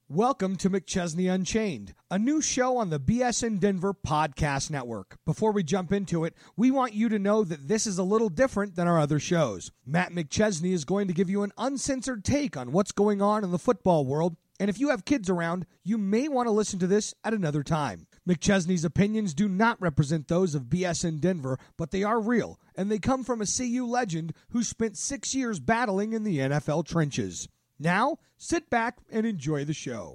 Welcome to McChesney Unchained, a new show on the BSN Denver Podcast Network. Before we jump into it, we want you to know that this is a little different than our other shows. Matt McChesney is going to give you an uncensored take on what's going on in the football world, and if you have kids around, you may want to listen to this at another time. McChesney's opinions do not represent those of BSN Denver, but they are real, and they come from a CU legend who spent 6 years battling in the NFL trenches. Now, sit back and enjoy the show.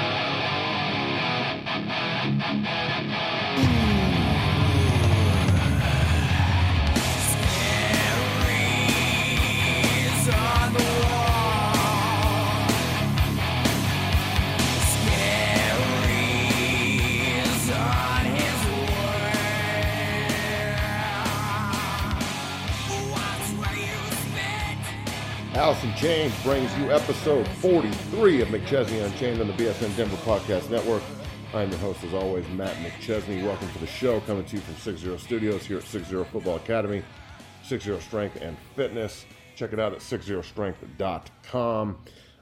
Allison James brings you episode 43 of McChesney Unchained on the BSN Denver Podcast Network. I'm your host, as always, Matt McChesney. Welcome to the show, coming to you from 60 Studios here at 60 Football Academy, 60 Strength and Fitness. Check it out at 60strength.com.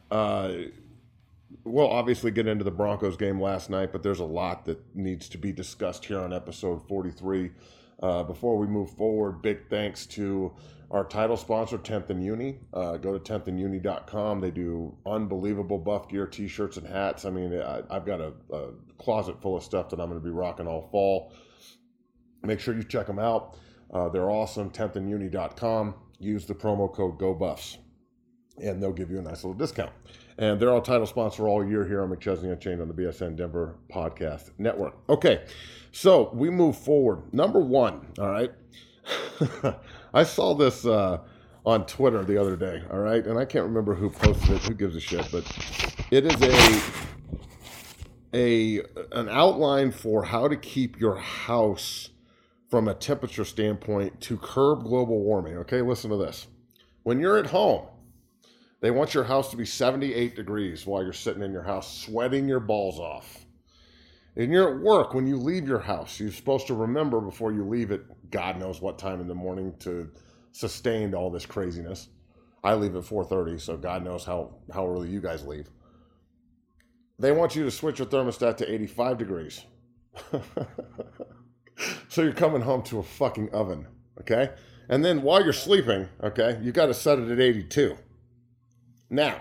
We'll obviously get into the Broncos game last night, but there's a lot that needs to be discussed here on episode 43. Before we move forward, big thanks to our title sponsor, 10th and Uni. Go to 10thanduni.com. They do unbelievable Buff Gear t-shirts and hats. I mean, I've got a closet full of stuff that I'm going to be rocking all fall. Make sure you check them out. They're awesome, 10thanduni.com. Use the promo code GOBUFFS, and they'll give you a nice little discount. And they're our title sponsor all year here on McChesney Unchained on the BSN Denver Podcast Network. Okay, so we move forward. Number one, all right. I saw this on Twitter the other day, all right? And I can't remember who posted it, who gives a shit, but it is an outline for how to keep your house from a temperature standpoint to curb global warming, okay? Listen to this. When you're at home, they want your house to be 78 degrees while you're sitting in your house, sweating your balls off. And you're at work, when you leave your house, you're supposed to remember before you leave it, God knows what time in the morning to sustain all this craziness. I leave at 4:30, so God knows how early you guys leave. They want you to switch your thermostat to 85 degrees. So you're coming home to a fucking oven, okay? And then while you're sleeping, okay, you got to set it at 82. Now,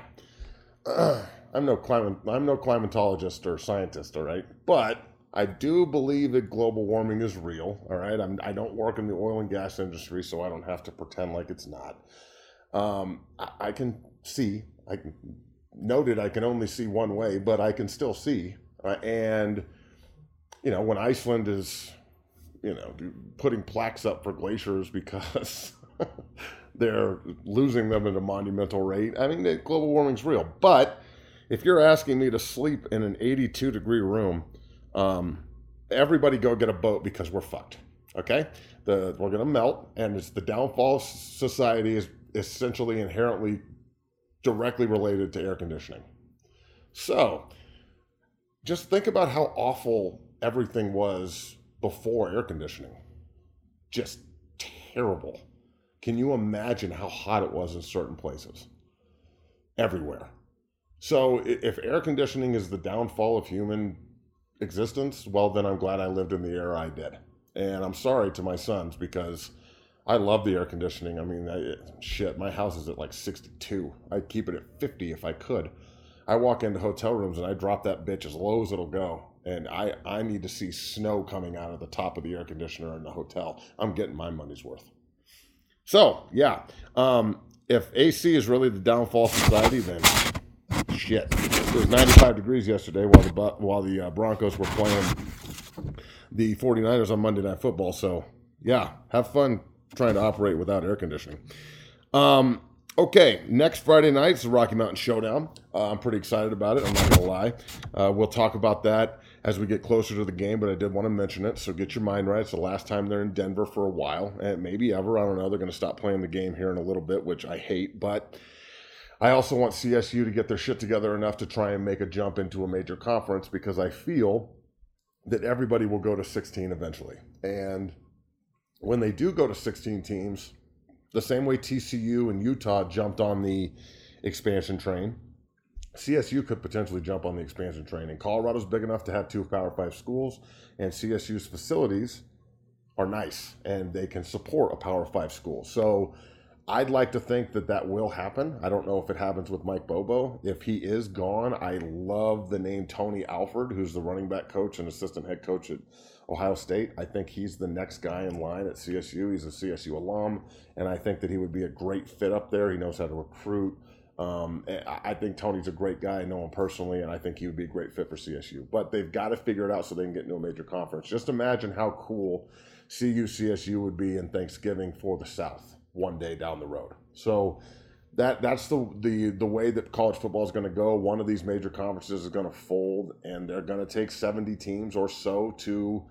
I'm no climatologist or scientist, all right? But I do believe that global warming is real, all right? I don't work in the oil and gas industry, so I don't have to pretend like it's not. I can see, I can only see one way, but I can still see. And, you know, when Iceland is, you know, putting plaques up for glaciers because they're losing them at a monumental rate, I mean, global warming's real. But if you're asking me to sleep in an 82-degree room, everybody go get a boat because we're fucked, okay? We're going to melt, and it's the downfall of society is essentially inherently directly related to air conditioning. So just think about how awful everything was before air conditioning. Just terrible. Can you imagine how hot it was in certain places? Everywhere. So if air conditioning is the downfall of human existence, well, then I'm glad I lived in the era I did. And I'm sorry to my sons because I love the air conditioning. I mean, my house is at like 62. I'd keep it at 50 if I could. I walk into hotel rooms and I drop that bitch as low as it'll go. And I need to see snow coming out of the top of the air conditioner in the hotel. I'm getting my money's worth. So, yeah, if AC is really the downfall of society, then shit. It was 95 degrees yesterday while the Broncos were playing the 49ers on Monday Night Football. So, yeah, have fun trying to operate without air conditioning. Okay, next Friday night is the Rocky Mountain Showdown. I'm pretty excited about it. I'm not going to lie. We'll talk about that as we get closer to the game, but I did want to mention it. So get your mind right. It's the last time they're in Denver for a while, and maybe ever. I don't know. They're going to stop playing the game here in a little bit, which I hate. But I also want CSU to get their shit together enough to try and make a jump into a major conference because I feel that everybody will go to 16 eventually. And when they do go to 16 teams, the same way TCU and Utah jumped on the expansion train, CSU could potentially jump on the expansion train. And Colorado's big enough to have 2 Power 5 schools, and CSU's facilities are nice, and they can support a Power 5 school. So I'd like to think that that will happen. I don't know if it happens with Mike Bobo. If he is gone, I love the name Tony Alford, who's the running back coach and assistant head coach at Ohio State. I think he's the next guy in line at CSU. He's a CSU alum, and I think that he would be a great fit up there. He knows how to recruit. I think Tony's a great guy. I know him personally, and I think he would be a great fit for CSU. But they've got to figure it out so they can get into a major conference. Just imagine how cool CSU would be in Thanksgiving for the South one day down the road. So that's the way that college football is going to go. One of these major conferences is going to fold, and they're going to take 70 teams or so to,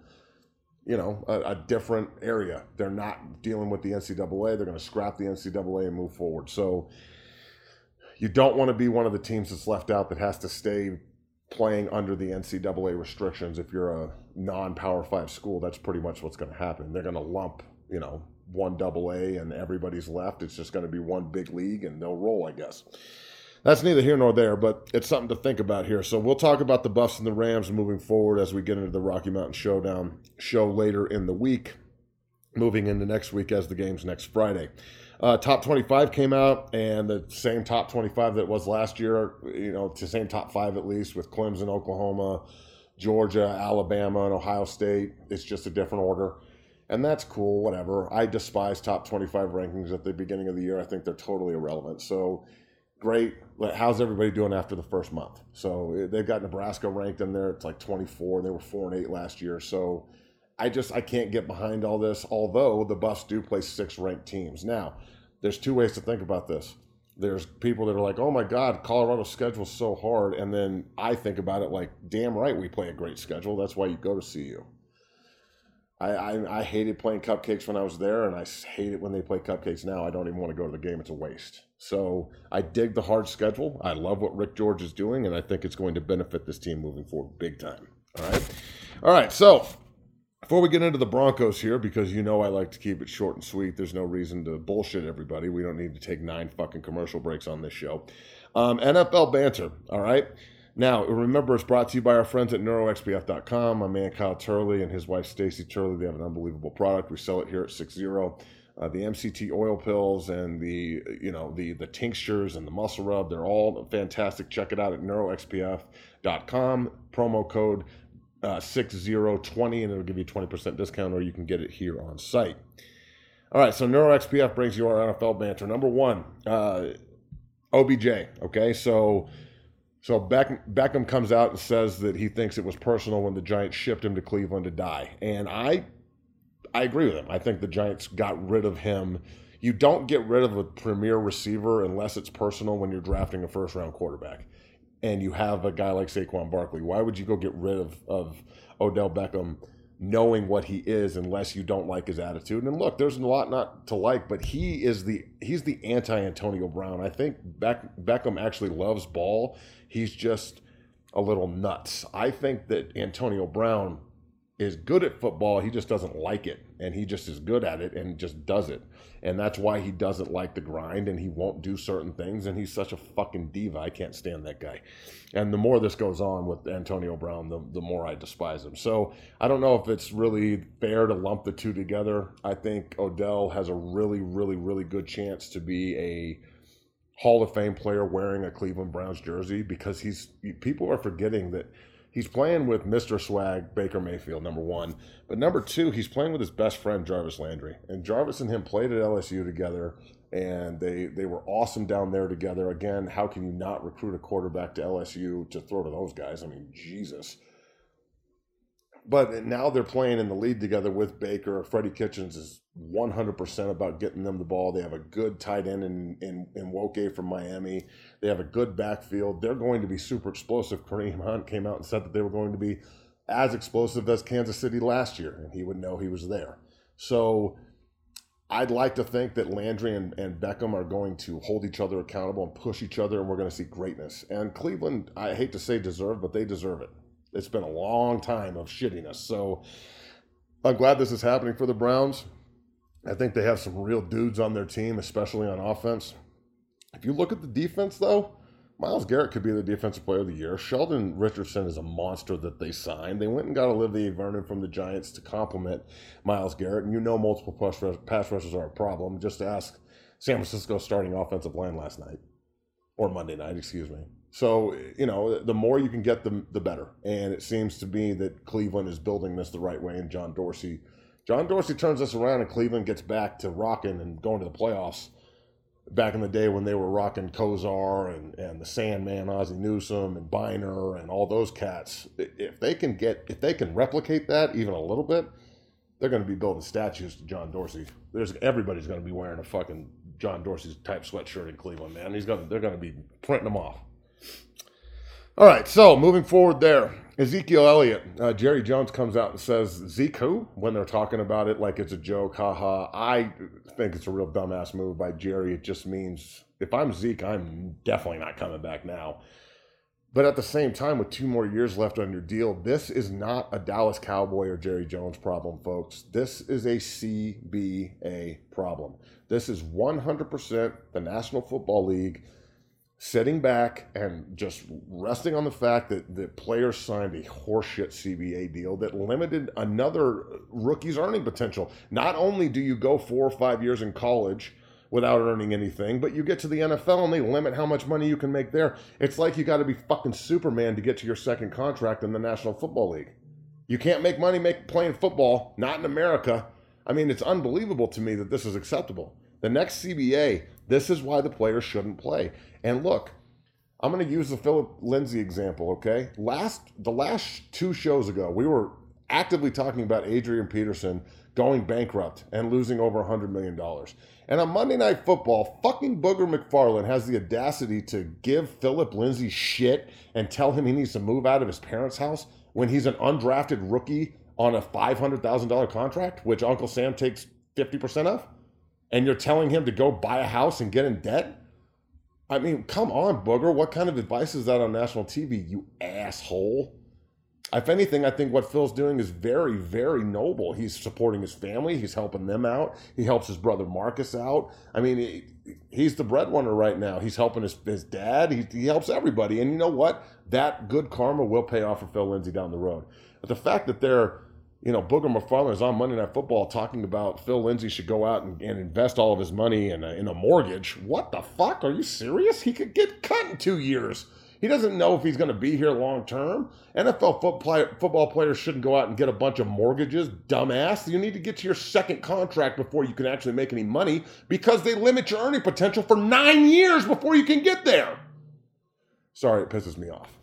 a different area. They're not dealing with the NCAA. They're going to scrap the NCAA and move forward. So you don't want to be one of the teams that's left out that has to stay playing under the NCAA restrictions. If you're a non-Power 5 school, that's pretty much what's going to happen. They're going to lump, one AA and everybody's left. It's just going to be one big league and they'll roll, I guess. That's neither here nor there, but it's something to think about here. So we'll talk about the Buffs and the Rams moving forward as we get into the Rocky Mountain Showdown show later in the week, moving into next week as the game's next Friday. Top 25 came out, and the same top 25 that it was last year, it's the same top 5 at least, with Clemson, Oklahoma, Georgia, Alabama, and Ohio State. It's just a different order, and that's cool, whatever. I despise top 25 rankings at the beginning of the year. I think they're totally irrelevant. So great. How's everybody doing after the first month? So they've got Nebraska ranked in there. It's like 24. They were 4-8 last year. So I can't get behind all this, although the Buffs do play 6 ranked teams. Now, there's 2 ways to think about this. There's people that are like, oh my God, Colorado's schedule's so hard. And then I think about it like, damn right, we play a great schedule. That's why you go to CU. I hated playing cupcakes when I was there, and I hate it when they play cupcakes now. I don't even want to go to the game. It's a waste. So I dig the hard schedule. I love what Rick George is doing, and I think it's going to benefit this team moving forward big time. All right, so before we get into the Broncos here, because I like to keep it short and sweet, there's no reason to bullshit everybody. We don't need to take 9 fucking commercial breaks on this show. NFL banter, all right? Now, remember, it's brought to you by our friends at NeuroXPF.com. My man Kyle Turley and his wife Stacy Turley, they have an unbelievable product. We sell it here at 60. The MCT oil pills and the tinctures and the muscle rub, they're all fantastic. Check it out at NeuroXPF.com. Promo code 6020, and it'll give you 20% discount, or you can get it here on site. All right, so NeuroXPF brings you our NFL banter. Number 1, OBJ. Okay, so Beckham comes out and says that he thinks it was personal when the Giants shipped him to Cleveland to die. And I agree with him. I think the Giants got rid of him. You don't get rid of a premier receiver unless it's personal when you're drafting a first-round quarterback and you have a guy like Saquon Barkley. Why would you go get rid of Odell Beckham knowing what he is unless you don't like his attitude? And look, there's a lot not to like, but he's the anti-Antonio Brown. I think Beckham actually loves ball. He's just a little nuts. I think that Antonio Brown is good at football. He just doesn't like it, and he just is good at it and just does it. And that's why he doesn't like the grind, and he won't do certain things, and he's such a fucking diva. I can't stand that guy. And the more this goes on with Antonio Brown, the more I despise him. So I don't know if it's really fair to lump the two together. I think Odell has a really, really, really good chance to be a Hall of Fame player wearing a Cleveland Browns jersey, because people are forgetting that he's playing with Mr. Swag, Baker Mayfield, number 1. But number 2, he's playing with his best friend, Jarvis Landry. And Jarvis and him played at LSU together, and they were awesome down there together. Again, how can you not recruit a quarterback to LSU to throw to those guys? I mean, Jesus. But now they're playing in the lead together with Baker. Freddie Kitchens is 100% about getting them the ball. They have a good tight end in Woke from Miami. They have a good backfield. They're going to be super explosive. Kareem Hunt came out and said that they were going to be as explosive as Kansas City last year, and he would know he was there. So I'd like to think that Landry and Beckham are going to hold each other accountable and push each other, and we're going to see greatness. And Cleveland, I hate to say deserve, but they deserve it. It's been a long time of shittiness. So I'm glad this is happening for the Browns. I think they have some real dudes on their team, especially on offense. If you look at the defense, though, Myles Garrett could be the defensive player of the year. Sheldon Richardson is a monster that they signed. They went and got Olivier Vernon from the Giants to complement Myles Garrett. And multiple pass rushers are a problem. Just ask San Francisco starting offensive line last night. Or Monday night, excuse me. So, the more you can get them, the better. And it seems to me that Cleveland is building this the right way. And John Dorsey turns this around and Cleveland gets back to rocking and going to the playoffs. Back in the day when they were rocking Kozar and the Sandman, Ozzie Newsome, and Biner and all those cats, if they can replicate that even a little bit, they're going to be building statues to John Dorsey. Everybody's going to be wearing a fucking John Dorsey's type sweatshirt in Cleveland, man. They're going to be printing them off. All right, so moving forward there, Ezekiel Elliott. Jerry Jones comes out and says, Zeke who? When they're talking about it like it's a joke, haha. I think it's a real dumbass move by Jerry. It just means, if I'm Zeke, I'm definitely not coming back now. But at the same time, with 2 more years left on your deal, this is not a Dallas Cowboy or Jerry Jones problem, folks. This is a CBA problem. This is 100% the National Football League sitting back and just resting on the fact that the players signed a horseshit CBA deal that limited another rookie's earning potential. Not only do you go 4 or 5 years in college without earning anything, but you get to the NFL and they limit how much money you can make there. It's like you got to be fucking Superman to get to your second contract in the National Football League. You can't make money playing football, not in America. I mean, it's unbelievable to me that this is acceptable. The next CBA, this is why the players shouldn't play. And look, I'm going to use the Philip Lindsay example, okay? The last 2 shows ago, we were actively talking about Adrian Peterson going bankrupt and losing over $100 million. And on Monday Night Football, fucking Booger McFarland has the audacity to give Philip Lindsay shit and tell him he needs to move out of his parents' house when he's an undrafted rookie on a $500,000 contract, which Uncle Sam takes 50% of? And you're telling him to go buy a house and get in debt? I mean, come on, Booger. What kind of advice is that on national TV, you asshole? If anything, I think what Phil's doing is very, very noble. He's supporting his family. He's helping them out. He helps his brother Marcus out. I mean, he's the breadwinner right now. He's helping his dad. He helps everybody. And you know what? That good karma will pay off for Phil Lindsay down the road. But the fact that Booger McFarland is on Monday Night Football talking about Phil Lindsay should go out and invest all of his money in a mortgage. What the fuck? Are you serious? He could get cut in 2 years. He doesn't know if he's going to be here long term. NFL football players shouldn't go out and get a bunch of mortgages, dumbass. You need to get to your second contract before you can actually make any money because they limit your earning potential for 9 years before you can get there. Sorry, it pisses me off.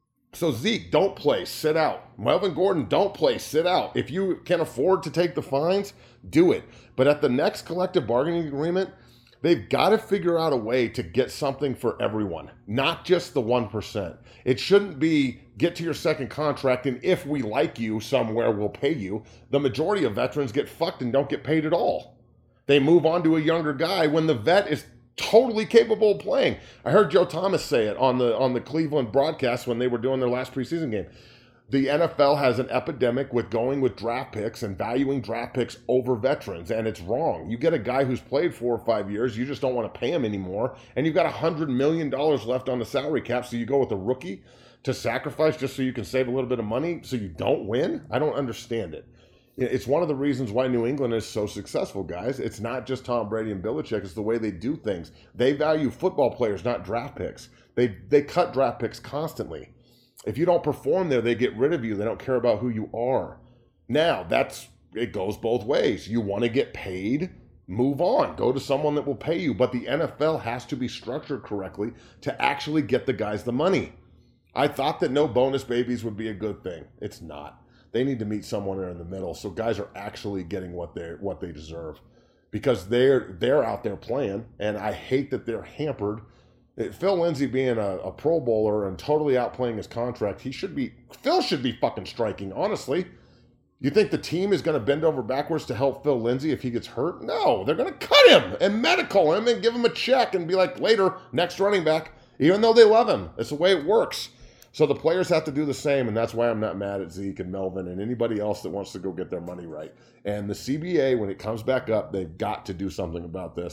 So Zeke, don't play, sit out. Melvin Gordon, don't play, sit out. If you can afford to take the fines, do it. But at the next collective bargaining agreement, they've got to figure out a way to get something for everyone, not just the 1%. It shouldn't be get to your second contract and if we like you somewhere, we'll pay you. The majority of veterans get fucked and don't get paid at all. They move on to a younger guy when the vet is totally capable of playing. I heard Joe Thomas say it on the Cleveland broadcast when they were doing their last preseason game. The NFL has an epidemic with going with draft picks and valuing draft picks over veterans, and it's wrong. You get a guy who's played 4 or 5 years, you just don't want to pay him anymore, and you've got $100 million left on the salary cap, so you go with a rookie to sacrifice just so you can save a little bit of money so you don't win? I don't understand it. It's one of the reasons why New England is so successful, guys. It's not just Tom Brady and Belichick. It's the way they do things. They value football players, not draft picks. They cut draft picks constantly. If you don't perform there, they get rid of you. They don't care about who you are. Now, it goes both ways. You want to get paid, move on. Go to someone that will pay you. But the NFL has to be structured correctly to actually get the guys the money. I thought that no bonus babies would be a good thing. It's not. They need to meet someone there in the middle so guys are actually getting what they deserve. Because they're out there playing, and I hate that they're hampered. Phil Lindsay being a Pro Bowler and totally outplaying his contract, Phil should be fucking striking, honestly. You think the team is going to bend over backwards to help Phil Lindsay if he gets hurt? No, they're going to cut him and medical him and give him a check and be like, later, next running back, even though they love him. It's the way it works. So the players have to do the same, and that's why I'm not mad at Zeke and Melvin and anybody else that wants to go get their money right. And the CBA, when it comes back up, they've got to do something about this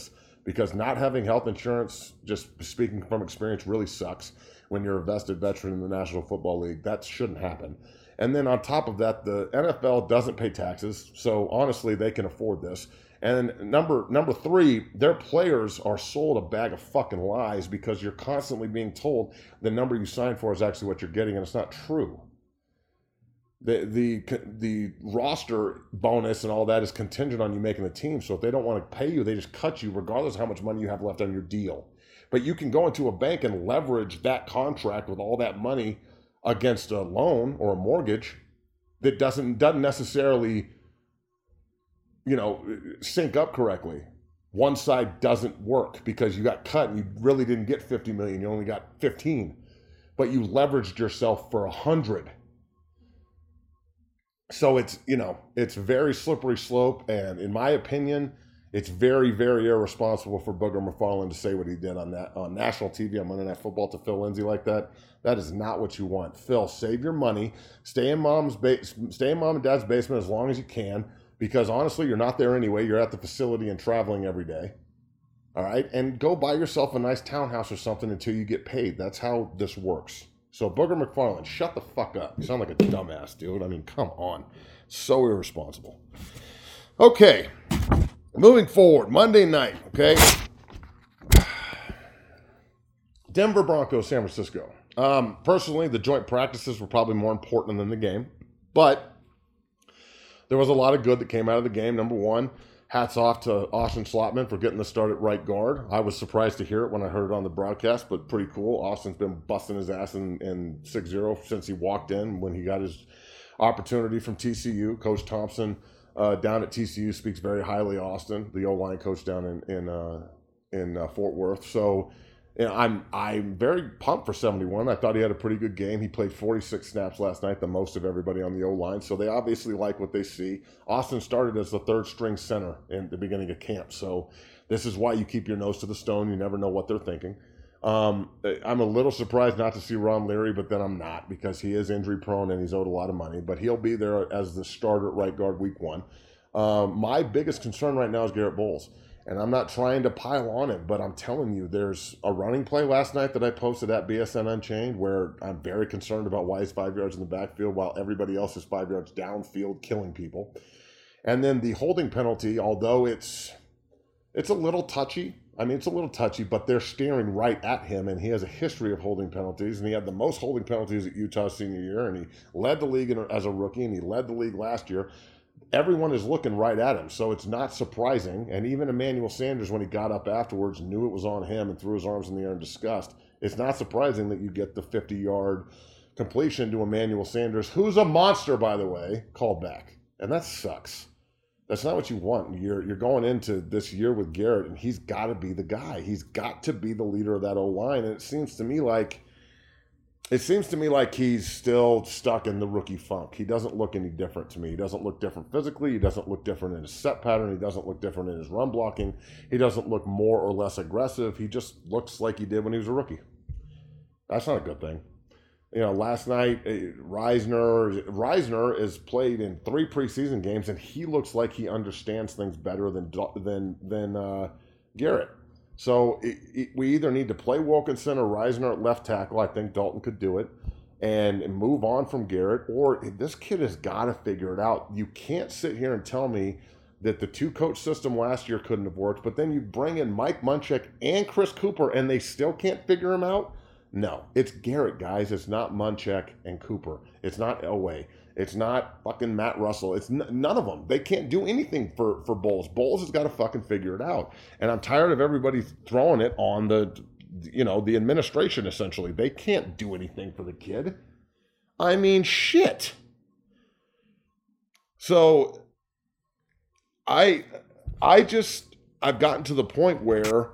because not having health insurance, just speaking from experience, really sucks when you're a vested veteran in the National Football League. That shouldn't happen. And then on top of that, the NFL doesn't pay taxes, so honestly, they can afford this. And number three, their players are sold a bag of fucking lies because you're constantly being told the number you signed for is actually what you're getting, and it's not true. The roster bonus and all that is contingent on you making the team. So if they don't want to pay you, they just cut you regardless of how much money you have left on your deal. But you can go into a bank and leverage that contract with all that money against a loan or a mortgage that doesn't necessarily, sync up correctly. One side doesn't work because you got cut and you really didn't get 50 million. You only got 15, but you leveraged yourself for 100. So it's very slippery slope. And in my opinion, it's very, very irresponsible for Booger McFarland to say what he did on national TV on Monday Night Football to Phil Lindsay like that. That is not what you want. Phil, save your money. Stay in mom and dad's basement as long as you can, because honestly, you're not there anyway. You're at the facility and traveling every day. All right? And go buy yourself a nice townhouse or something until you get paid. That's how this works. So Booger McFarland, shut the fuck up. You sound like a dumbass, dude. I mean, come on. So irresponsible. Okay. Moving forward, Monday night, okay? Denver Broncos, San Francisco. Personally, the joint practices were probably more important than the game, but there was a lot of good that came out of the game. Number one, hats off to Austin Slotman for getting the start at right guard. I was surprised to hear it when I heard it on the broadcast, but pretty cool. Austin's been busting his ass in 6-0 since he walked in when he got his opportunity from TCU. Coach Thompson down at TCU speaks very highly of Austin, the O-line coach down in Fort Worth. So I'm very pumped for 71. I thought he had a pretty good game. He played 46 snaps last night, the most of everybody on the O-line. So they obviously like what they see. Austin started as the third-string center in the beginning of camp. So this is why you keep your nose to the stone. You never know what they're thinking. I'm a little surprised not to see Ron Leary, but then I'm not, because he is injury-prone and he's owed a lot of money. But he'll be there as the starter at right guard week 1. My biggest concern right now is Garrett Bowles. And I'm not trying to pile on him, but I'm telling you, there's a running play last night that I posted at BSN Unchained where I'm very concerned about why he's 5 yards in the backfield while everybody else is 5 yards downfield killing people. And then the holding penalty, although it's a little touchy. I mean, it's a little touchy, but they're staring right at him, and he has a history of holding penalties, and he had the most holding penalties at Utah's senior year, and he led the league as a rookie, and he led the league last year. Everyone is looking right at him, so it's not surprising. And even Emmanuel Sanders, when he got up afterwards, knew it was on him and threw his arms in the air in disgust. It's not surprising that you get the 50-yard completion to Emmanuel Sanders, who's a monster, by the way, called back. And that sucks. That's not what you want. You're going into this year with Garrett, and he's got to be the guy. He's got to be the leader of that O-line, and it seems to me like he's still stuck in the rookie funk. He doesn't look any different to me. He doesn't look different physically. He doesn't look different in his set pattern. He doesn't look different in his run blocking. He doesn't look more or less aggressive. He just looks like he did when he was a rookie. That's not a good thing. Last night, Reisner is played in 3 preseason games, and he looks like he understands things better than Garrett. So we either need to play Wilkinson or Reisner at left tackle. I think Dalton could do it and move on from Garrett. Or this kid has got to figure it out. You can't sit here and tell me that the 2-coach system last year couldn't have worked, but then you bring in Mike Munchak and Chris Cooper and they still can't figure him out? No, it's Garrett, guys. It's not Munchak and Cooper. It's not Elway. It's not fucking Matt Russell. It's none of them. They can't do anything for Bowles. Bowles has got to fucking figure it out. And I'm tired of everybody throwing it on the administration, essentially. They can't do anything for the kid. I mean, shit. So I've gotten to the point where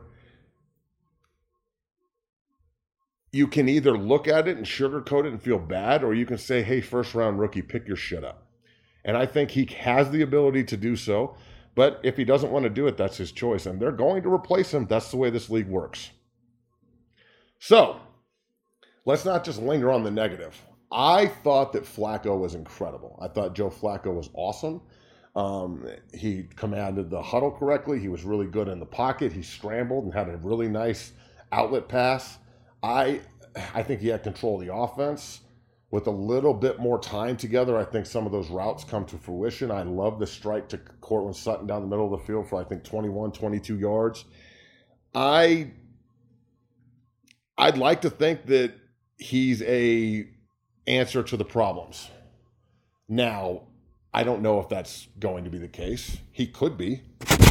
you can either look at it and sugarcoat it and feel bad, or you can say, hey, first-round rookie, pick your shit up. And I think he has the ability to do so, but if he doesn't want to do it, that's his choice. And they're going to replace him. That's the way this league works. So let's not just linger on the negative. I thought that Flacco was incredible. I thought Joe Flacco was awesome. He commanded the huddle correctly. He was really good in the pocket. He scrambled and had a really nice outlet pass. I think he had control of the offense. With a little bit more time together, I think some of those routes come to fruition. I love the strike to Cortland Sutton down the middle of the field for, I think, 21, 22 yards. I'd like to think that he's a answer to the problems. Now, I don't know if that's going to be the case. He could be.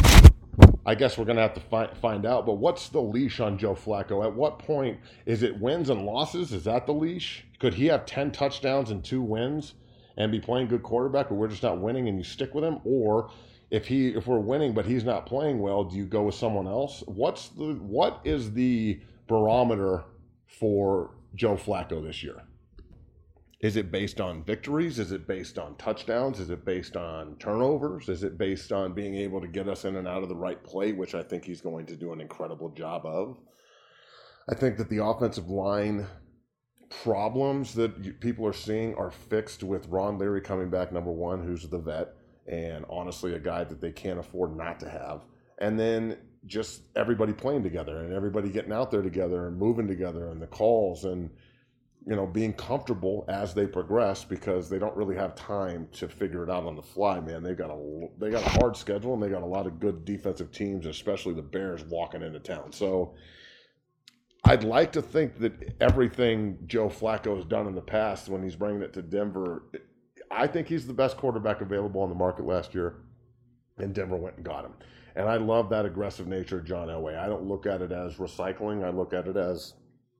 I guess we're going to have to find out. But what's the leash on Joe Flacco? At what point is it wins and losses? Is that the leash? Could he have 10 touchdowns and 2 wins and be playing good quarterback, but we're just not winning and you stick with him? Or if we're winning but he's not playing well, do you go with someone else? What is the barometer for Joe Flacco this year? Is it based on victories? Is it based on touchdowns? Is it based on turnovers? Is it based on being able to get us in and out of the right play, which I think he's going to do an incredible job of? I think that the offensive line problems that people are seeing are fixed with Ron Leary coming back, number one, who's the vet, and honestly a guy that they can't afford not to have. And then just everybody playing together and everybody getting out there together and moving together and the calls and being comfortable as they progress, because they don't really have time to figure it out on the fly, man. They got a hard schedule and they got a lot of good defensive teams, especially the Bears walking into town. So I'd like to think that everything Joe Flacco has done in the past when he's bringing it to Denver, I think he's the best quarterback available on the market last year, and Denver went and got him. And I love that aggressive nature of John Elway. I don't look at it as recycling. I look at it as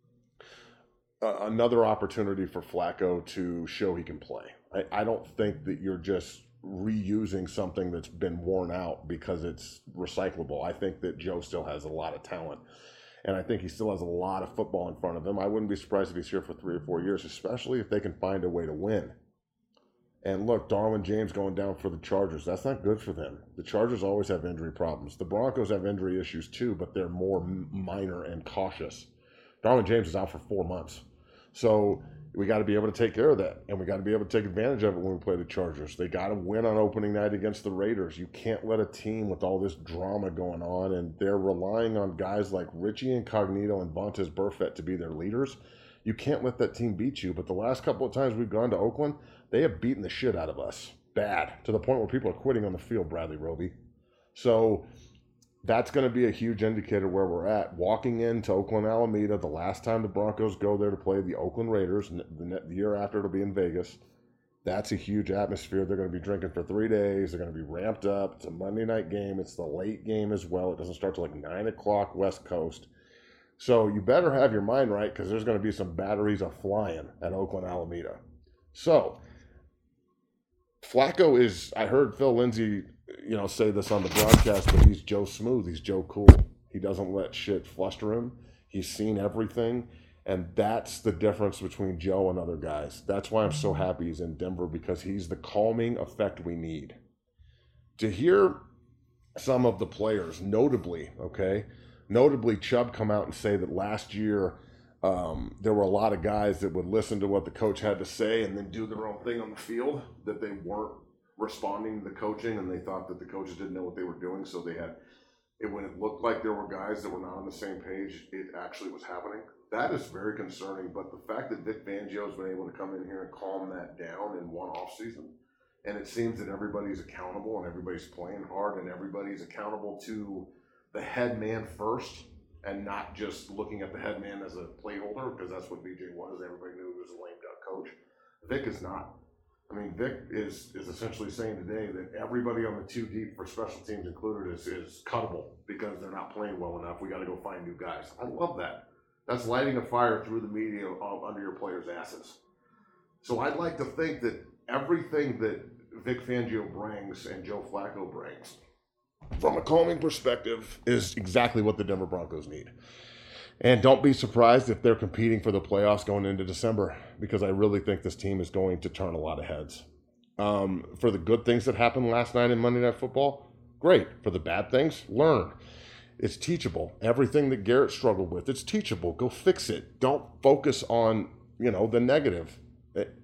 another opportunity for Flacco to show he can play. I don't think that you're just reusing something that's been worn out because it's recyclable. I think that Joe still has a lot of talent, and I think he still has a lot of football in front of him. I wouldn't be surprised if he's here for 3 or 4 years, especially if they can find a way to win. And look, Darwin James going down for the Chargers, that's not good for them. The Chargers always have injury problems. The Broncos have injury issues too, but they're more minor and cautious. Darwin James is out for 4 months. So we got to be able to take care of that, and we got to be able to take advantage of it when we play the Chargers. They got to win on opening night against the Raiders. You can't let a team with all this drama going on, and they're relying on guys like Richie Incognito and Vontaze Burfict to be their leaders. You can't let that team beat you. But the last couple of times we've gone to Oakland, they have beaten the shit out of us. Bad. To the point where people are quitting on the field, Bradley Roby. So that's going to be a huge indicator where we're at. Walking into Oakland Alameda, the last time the Broncos go there to play the Oakland Raiders, the year after it'll be in Vegas, that's a huge atmosphere. They're going to be drinking for 3 days. They're going to be ramped up. It's a Monday night game. It's the late game as well. It doesn't start till like 9 o'clock West Coast. So you better have your mind right, because there's going to be some batteries a-flying at Oakland Alameda. So Flacco is, I heard Phil Lindsay say this on the broadcast, but he's Joe Smooth. He's Joe Cool. He doesn't let shit fluster him. He's seen everything, and that's the difference between Joe and other guys. That's why I'm so happy he's in Denver, because he's the calming effect we need. To hear some of the players, notably Chubb come out and say that last year there were a lot of guys that would listen to what the coach had to say and then do their own thing on the field, that they weren't responding to the coaching, and they thought that the coaches didn't know what they were doing, so they had it when it looked like there were guys that were not on the same page, it actually was happening. That is very concerning, but the fact that Vic Fangio has been able to come in here and calm that down in one off season, and it seems that everybody's accountable and everybody's playing hard and everybody's accountable to the head man first, and not just looking at the head man as a playholder, because that's what BJ was. Everybody knew he was a lame duck coach. Vic is not. I mean, Vic is essentially saying today that everybody on the 2 deep, for special teams included, is cuttable because they're not playing well enough. We got to go find new guys. I love that. That's lighting a fire through the media under your players' asses. So I'd like to think that everything that Vic Fangio brings and Joe Flacco brings, from a calming perspective, is exactly what the Denver Broncos need. And don't be surprised if they're competing for the playoffs going into December, because I really think this team is going to turn a lot of heads. For the good things that happened last night in Monday Night Football, great. For the bad things, learn. It's teachable. Everything that Garrett struggled with, it's teachable. Go fix it. Don't focus on, the negative.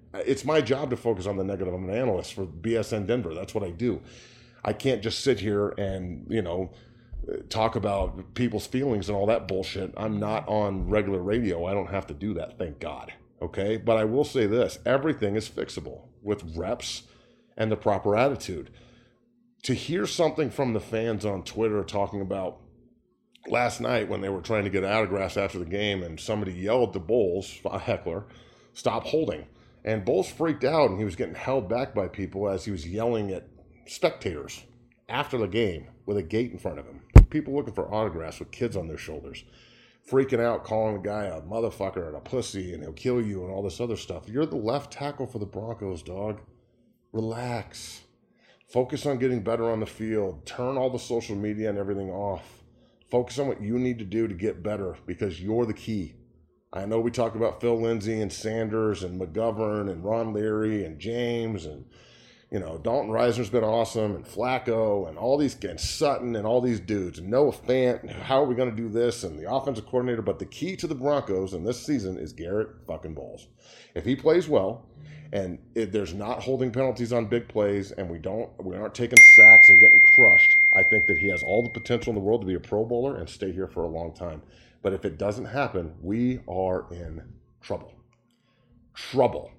it's my job to focus on the negative. I'm an analyst for BSN Denver. That's what I do. I can't just sit here and, talk about people's feelings and all that bullshit. I'm not on regular radio. I don't have to do that, thank God. Okay? But I will say this. Everything is fixable with reps and the proper attitude. To hear something from the fans on Twitter talking about last night when they were trying to get autographs after the game and somebody yelled to Bowles, a heckler, stop holding. And Bowles freaked out and he was getting held back by people as he was yelling at spectators after the game with a gate in front of him. People looking for autographs with kids on their shoulders, freaking out, calling the guy a motherfucker and a pussy and he'll kill you and all this other stuff. You're the left tackle for the Broncos, dog. Relax. Focus on getting better on the field. Turn all the social media and everything off. Focus on what you need to do to get better because you're the key. I know we talk about Phil Lindsay and Sanders and McGovern and Ron Leary and James and Dalton Reisner's been awesome, and Flacco, and all these, and Sutton, and all these dudes, and Noah Fant, how are we going to do this, and the offensive coordinator, but the key to the Broncos in this season is Garrett fucking Bowles. If he plays well, and if there's not holding penalties on big plays, and we aren't taking sacks and getting crushed, I think that he has all the potential in the world to be a Pro Bowler and stay here for a long time. But if it doesn't happen, we are in trouble. Trouble.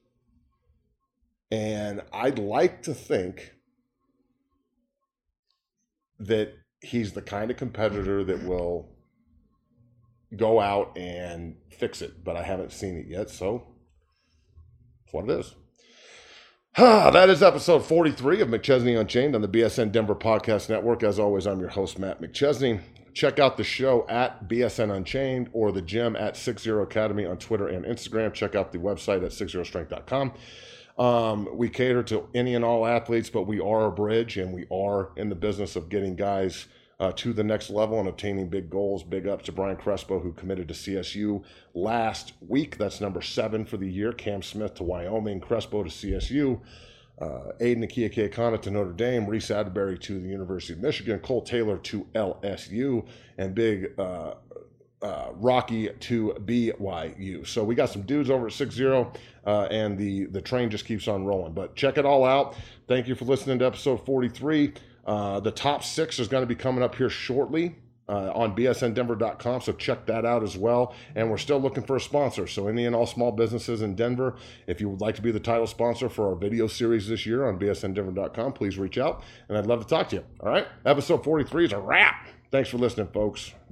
And I'd like to think that he's the kind of competitor that will go out and fix it, but I haven't seen it yet, so that's what it is. That is episode 43 of McChesney Unchained on the BSN Denver Podcast Network. As always, I'm your host, Matt McChesney. Check out the show at BSN Unchained or the gym at 60 Academy on Twitter and Instagram. Check out the website at 60strength.com. We cater to any and all athletes, but we are a bridge and we are in the business of getting guys to the next level and obtaining big goals. Big ups to Brian Crespo, who committed to CSU last week. That's number 7 for the year. Cam Smith to Wyoming, Crespo to CSU, Aiden Akiakekana to Notre Dame, Reese Atterbury to the University of Michigan, Cole Taylor to LSU, and big Rocky to BYU. So we got some dudes over at 6-0, and the train just keeps on rolling. But check it all out. Thank you for listening to episode 43. The top 6 is going to be coming up here shortly on bsndenver.com, so check that out as well. And we're still looking for a sponsor. So any and all small businesses in Denver, if you would like to be the title sponsor for our video series this year on bsndenver.com, please reach out, and I'd love to talk to you. All right? Episode 43 is a wrap. Thanks for listening, folks.